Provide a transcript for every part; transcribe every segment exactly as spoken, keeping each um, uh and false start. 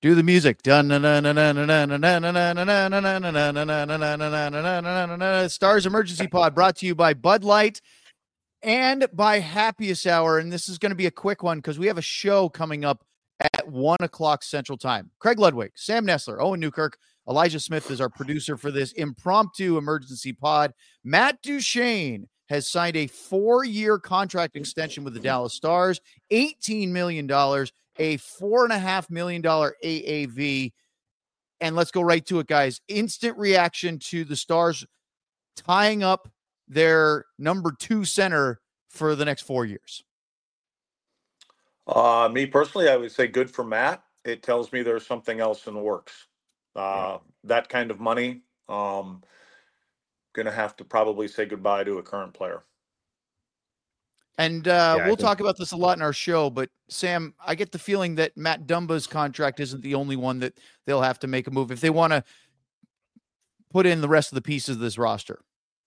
Do the music. Stars Emergency Pod brought to you by Bud Light and by Happiest Hour. And this is going to be a quick one because we have a show coming up at one o'clock Central Time. Craig Ludwig, Sam Nessler, Owen Newkirk, Elijah Smith is our producer for this impromptu emergency pod. Matt Duchene has signed a four-year contract extension with the Dallas Stars, eighteen million dollars, a four point five million dollars A A V. And let's go right to it, guys. Instant reaction to the Stars tying up their number two center for the next four years. Uh, me personally, I would say good for Matt. It tells me there's something else in the works. Uh, that kind of money, um, going to have to probably say goodbye to a current player. And uh, Yeah, we'll think- talk about this a lot in our show, but Sam, I get the feeling that Matt Dumba's contract isn't the only one that they'll have to make a move if they want to put in the rest of the pieces of this roster.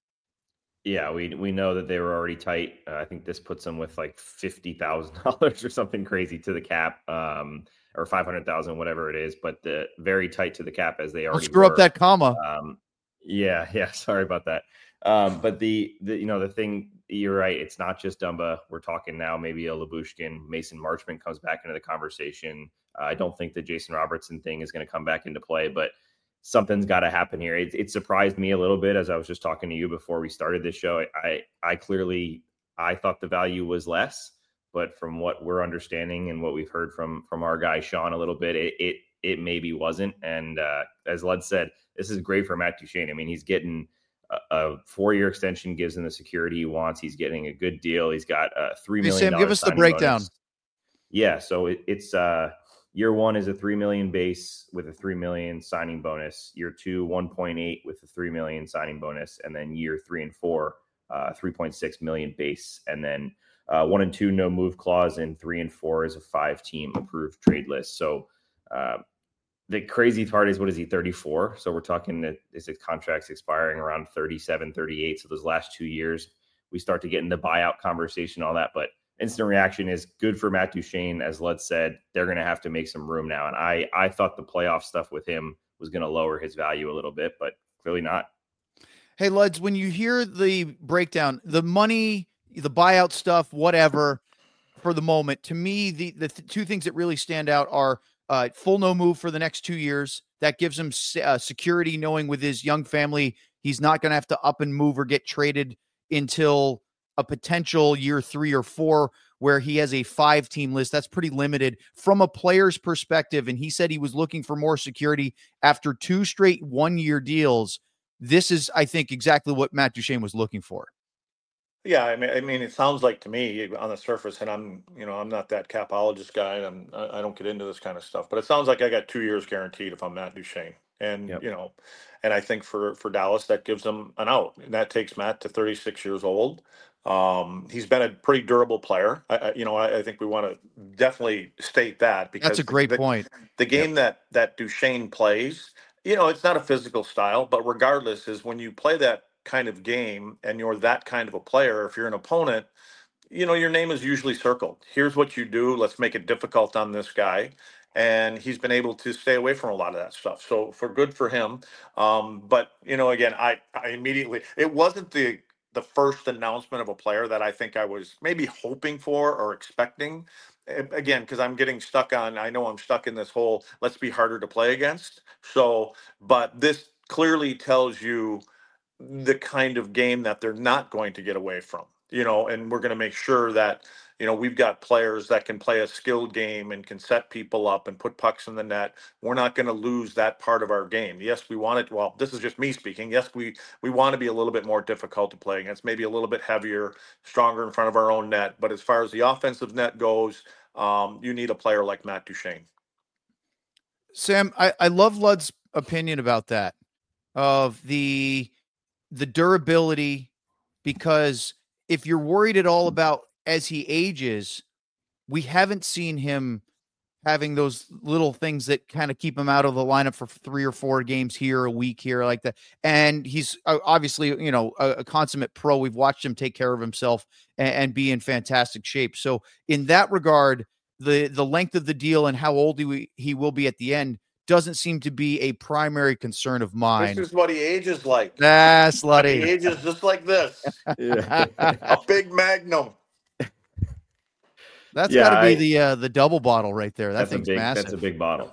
Yeah, we we know that they were already tight. Uh, I think this puts them with like fifty thousand dollars or something crazy to the cap, um, or five hundred thousand, whatever it is. But the very tight to the cap as they already Don't screw were. up that comma. Um, yeah, yeah. Sorry about that. Um, but the the you know the thing, you're right. It's not just Dumba. We're talking now maybe a Labushkin, Mason Marchment comes back into the conversation. Uh, I don't think the Jason Robertson thing is going to come back into play, but something's got to happen here. It, it surprised me a little bit as I was just talking to you before we started this show. I, I clearly, I thought the value was less, but from what we're understanding and what we've heard from, from our guy, Sean, a little bit, it, it, it maybe wasn't. And uh, as Lud said, this is great for Matt Duchene. I mean, he's getting a, a four-year extension, gives him the security he wants. He's getting a good deal. He's got a three million dollars. Hey, Sam, give us the breakdown. Bonus. Yeah. So it, it's, uh, year one is a three million base with a three million signing bonus. Year two, one point eight with a three million signing bonus. And then year three and four, uh, three point six million base. And then uh, one and two, no move clause. And three and four is a five team approved trade list. So uh, the crazy part is, what is he, thirty-four? So we're talking that his contract's expiring around thirty-seven, thirty-eight. So those last two years, we start to get in the buyout conversation, all that. But instant reaction is good for Matt Duchene. As Lud said, they're going to have to make some room now. And I, I thought the playoff stuff with him was going to lower his value a little bit, but clearly not. Hey, Luds, when you hear the breakdown, the money, the buyout stuff, whatever, for the moment, to me, the, the th- two things that really stand out are uh, full no move for the next two years. That gives him uh, security, knowing with his young family, he's not going to have to up and move or get traded until a potential year three or four where he has a five team list. That's pretty limited from a player's perspective. And he said he was looking for more security after two straight one year deals. This is, I think, exactly what Matt Duchene was looking for. Yeah, I mean, I mean, it sounds like to me on the surface, and I'm, you know, I'm not that capologist guy, and I'm, I don't get into this kind of stuff, but it sounds like I got two years guaranteed if I'm Matt Duchene, and Yep. you know, and I think for for Dallas that gives them an out, and that takes Matt to thirty-six years old. Um, he's been a pretty durable player. I, I, you know, I, I think we want to definitely state that because That's a great the, point. The game that that Duchene plays, you know, it's not a physical style, but regardless, is when you play that kind of game and you're that kind of a player, if you're an opponent, you know, your name is usually circled. Here's what you do. Let's make it difficult on this guy. And he's been able to stay away from a lot of that stuff. So for good for him. Um, but, you know, again, I, I immediately, it wasn't the, the first announcement of a player that I think I was maybe hoping for or expecting. Again, because I'm getting stuck on, I know I'm stuck in this whole, let's be harder to play against. So, but this clearly tells you the kind of game that they're not going to get away from, you know, and we're going to make sure that, you know, we've got players that can play a skilled game and can set people up and put pucks in the net. We're not going to lose that part of our game. Yes, we want it. Well, this is just me speaking. Yes, we, we want to be a little bit more difficult to play against, maybe a little bit heavier, stronger in front of our own net. But as far as the offensive net goes, um, you need a player like Matt Duchene. Sam, I, I love Lud's opinion about that, of the, the durability, because if you're worried at all about as he ages, we haven't seen him having those little things that kind of keep him out of the lineup for three or four games here, a week here, like that. And he's obviously, you know, a, a consummate pro. We've watched him take care of himself and, and be in fantastic shape. So in that regard, the the length of the deal and how old he, he will be at the end doesn't seem to be a primary concern of mine. This is what he ages like. Ah, slutty. He ages just like this. Yeah. A big Magnum. That's Yeah, got to be I- the uh, the double bottle right there. That That's a thing's big. massive. That's a big bottle.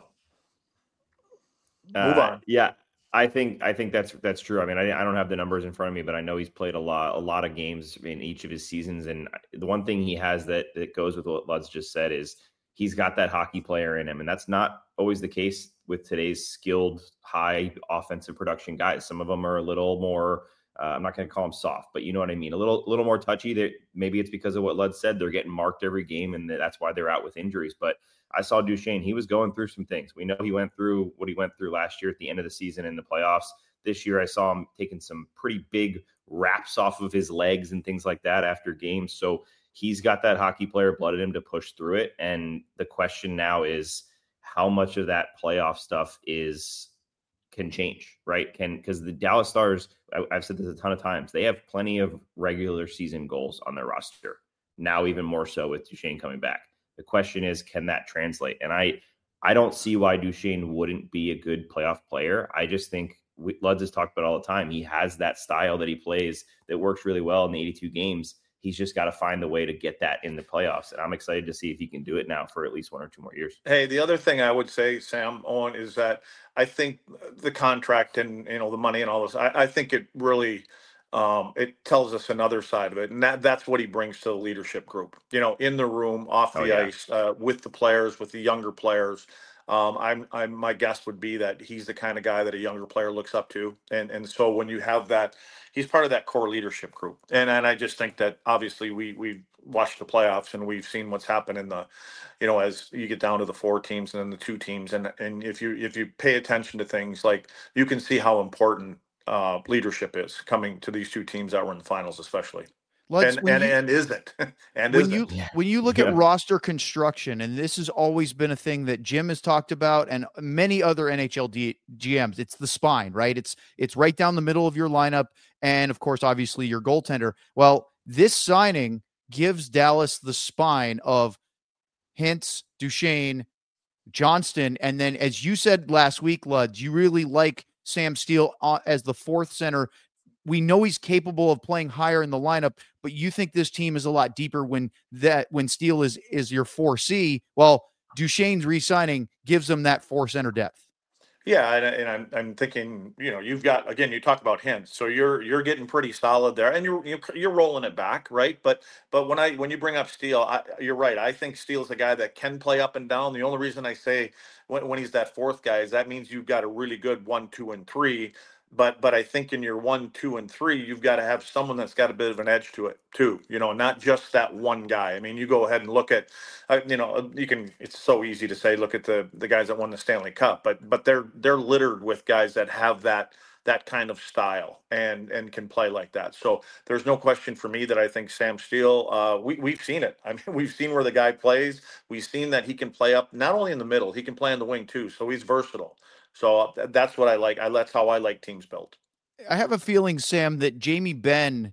Move Uh, on. Yeah, I think I think that's that's true. I mean, I, I don't have the numbers in front of me, but I know he's played a lot a lot of games in each of his seasons. And the one thing he has that that goes with what Lud's just said is he's got that hockey player in him, and that's not always the case with today's skilled, high offensive production guys. Some of them are a little more. Uh, I'm not going to call them soft, but you know what I mean. A little, little more touchy. That maybe it's because of what Lud said. They're getting marked every game, and that's why they're out with injuries. But I saw Duchesne. He was going through some things. We know he went through what he went through last year at the end of the season in the playoffs. This year, I saw him taking some pretty big wraps off of his legs and things like that after games. So he's got that hockey player blood in him to push through it. And the question now is how much of that playoff stuff is can change, right? Can because the Dallas Stars, I, I've said this a ton of times, they have plenty of regular season goals on their roster. Now, even more so with Duchesne coming back. The question is, can that translate? And I, I don't see why Duchesne wouldn't be a good playoff player. I just think we, Luds has talked about all the time. He has that style that he plays that works really well in the eighty-two games. He's just got to find the way to get that in the playoffs. And I'm excited to see if he can do it now for at least one or two more years. Hey, the other thing I would say, Sam, Owen, is that I think the contract and, you know, the money and all this, I, I think it really, um, it tells us another side of it. And that, that's what he brings to the leadership group, you know, in the room, off the Oh, yeah. ice, uh, with the players, with the younger players. Um, I'm, I'm, my guess would be that he's the kind of guy that a younger player looks up to. And, and so when you have that, he's part of that core leadership group. And, and I just think that obviously we, we watched the playoffs and we've seen what's happened in the, you know, as you get down to the four teams and then the two teams. And, and if you, if you pay attention to things, like you can see how important uh, leadership is coming to these two teams that were in the finals, especially. Let's, and and, you, and is it? and when is you it? when you look Yeah. at roster construction, and this has always been a thing that Jim has talked about, and many other N H L D, G Ms, it's the spine, right? It's it's right down the middle of your lineup, and of course, obviously, your goaltender. Well, this signing gives Dallas the spine of Hintz, Duchesne, Johnston, and then, as you said last week, Luds, you really like Sam Steele uh, as the fourth center. We know he's capable of playing higher in the lineup, but you think this team is a lot deeper when that when Steele is is your four C. Well, Duchesne's re-signing gives them that four center depth. Yeah, and, and I'm I'm thinking, you know, you've got, again, you talk about hints, so you're you're getting pretty solid there, and you're you're, you're rolling it back, right? But but when I when you bring up Steele, I, you're right. I think Steele's a guy that can play up and down. The only reason I say when when he's that fourth guy is that means you've got a really good one, two, and three. But but I think in your one, two, and three, you've got to have someone that's got a bit of an edge to it too. You know, not just that one guy. I mean, you go ahead and look at, uh, you know, you can. It's so easy to say, look at the the guys that won the Stanley Cup, but but they're they're littered with guys that have that that kind of style and and can play like that. So there's no question for me that I think Sam Steele. Uh, we we've seen it. I mean, we've seen where the guy plays. We've seen that he can play up not only in the middle, he can play on the wing too. So he's versatile. So that's what I like. I that's how I like teams built. I have a feeling, Sam, that Jamie Benn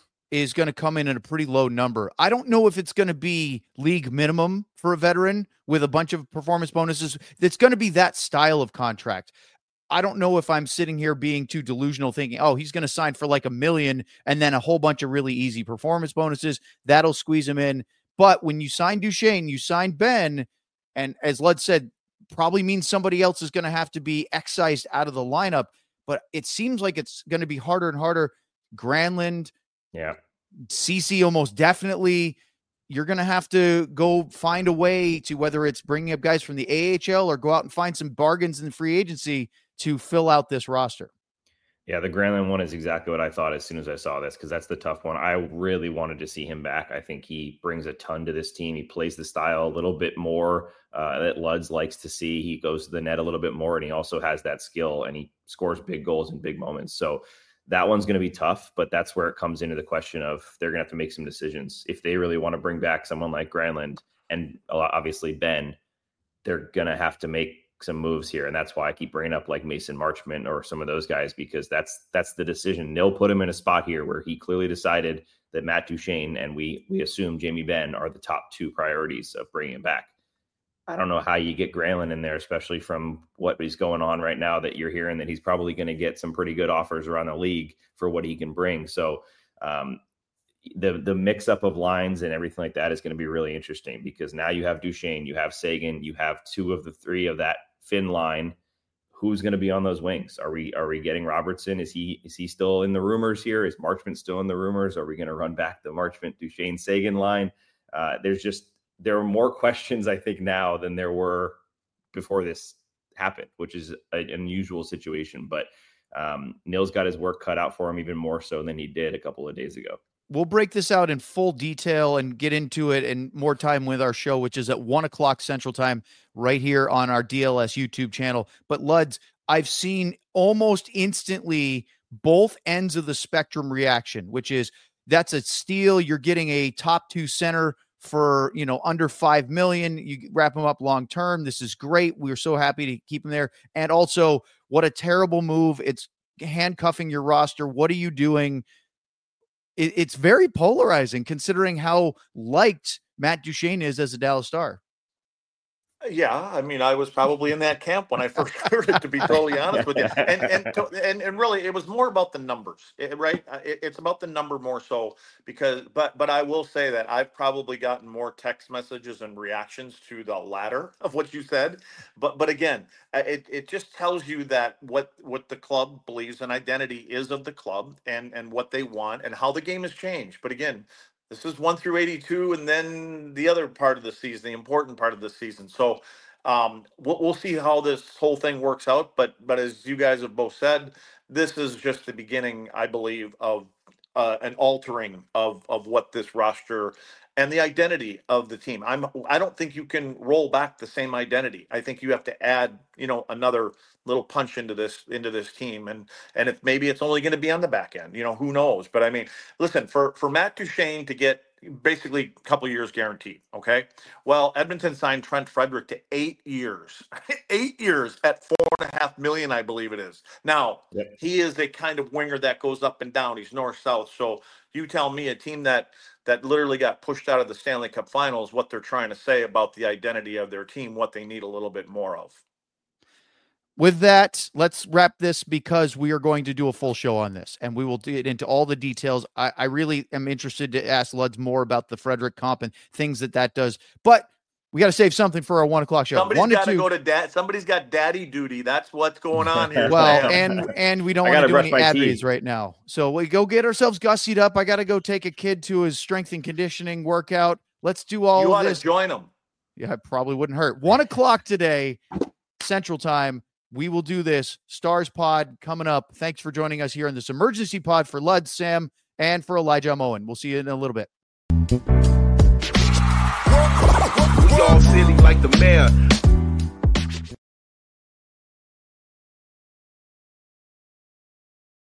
is going to come in at a pretty low number. I don't know if it's going to be league minimum for a veteran with a bunch of performance bonuses. It's going to be that style of contract. I don't know if I'm sitting here being too delusional thinking, oh, he's going to sign for like a million and then a whole bunch of really easy performance bonuses. That'll squeeze him in. But when you sign Duchesne, you sign Ben, and as Lud said, probably means somebody else is going to have to be excised out of the lineup, but it seems like it's going to be harder and harder. Granlund, Yeah. Ceci almost definitely. You're going to have to go find a way to, whether it's bringing up guys from the A H L or go out and find some bargains in free agency to fill out this roster. Yeah, the Granlund one is exactly what I thought as soon as I saw this, because that's the tough one. I really wanted to see him back. I think he brings a ton to this team. He plays the style a little bit more uh, that Luds likes to see. He goes to the net a little bit more, and he also has that skill, and he scores big goals in big moments. So that one's going to be tough, but that's where it comes into the question of they're going to have to make some decisions. If they really want to bring back someone like Granlund and obviously Ben, they're going to have to make some moves here. And that's why I keep bringing up like Mason Marchment or some of those guys, because that's, that's the decision. They'll put him in a spot here where he clearly decided that Matt Duchesne and we, we assume Jamie Benn are the top two priorities of bringing him back. I don't know how you get Granlund in there, especially from what is going on right now, that you're hearing that he's probably going to get some pretty good offers around the league for what he can bring. So um, the the mix up of lines and everything like that is going to be really interesting, because now you have Duchesne, you have Seguin, you have two of the three of that Finn line. Who's going to be on those wings? Are we are we getting Robertson? Is he is he still in the rumors here? Is Marchment still in the rumors? Are we going to run back the Marchment Duchesne Seguin line? Uh, there's just there are more questions, I think, now than there were before this happened, which is an unusual situation. But um, Nils got his work cut out for him even more so than he did a couple of days ago. We'll break this out in full detail and get into it in more time with our show, which is at one o'clock Central Time right here on our D L S YouTube channel. But Luds, I've seen almost instantly both ends of the spectrum reaction, which is that's a steal. You're getting a top two center for, you know, under five million. You wrap them up long term. This is great. We're so happy to keep them there. And also, what a terrible move. It's handcuffing your roster. What are you doing? It, it's very polarizing considering how liked Matt Duchesne is as a Dallas Star. Yeah, I mean, I was probably in that camp when I first heard it, to be totally honest with you. And and to, and, and really, it was more about the numbers, it, right? It, it's about the number more so because, but but I will say that I've probably gotten more text messages and reactions to the latter of what you said. But but again, it, it just tells you that what what the club believes an identity is of the club, and and what they want and how the game has changed. But again, this is one through eighty-two, and then the other part of the season, the important part of the season. So um, we'll, we'll see how this whole thing works out. But but as you guys have both said, this is just the beginning, I believe, of uh, an altering of of what this roster and the identity of the team. I'm I don't think you can roll back the same identity. I think you have to add, you know, another little punch into this into this team, and and if maybe it's only going to be on the back end, you know, who knows? But I mean, listen, for for Matt Duchesne to get basically a couple years guaranteed, okay? Well, Edmonton signed Trent Frederick to eight years, eight years at four and a half million, I believe it is. Now, yep. He is a kind of winger that goes up and down. He's north south. So you tell me, a team that that literally got pushed out of the Stanley Cup Finals, what they're trying to say about the identity of their team, what they need a little bit more of. With that, let's wrap this, because we are going to do a full show on this, and we will get into all the details. I, I really am interested to ask Luds more about the Frederick comp and things that that does, but we got to save something for our one o'clock show. Somebody's got to go to dad. Somebody's got daddy duty. That's what's going on here. Well, and and we don't want to do any ad reads right now, so we go get ourselves gussied up. I got to go take a kid to his strength and conditioning workout. Let's do all you of this. You ought to join him. Yeah, it probably wouldn't hurt. One o'clock today, Central Time. We will do this. Stars Pod coming up. Thanks for joining us here in this emergency pod for Lud, Sam, and for Elijah Moen. We'll see you in a little bit. We all silly like the mayor.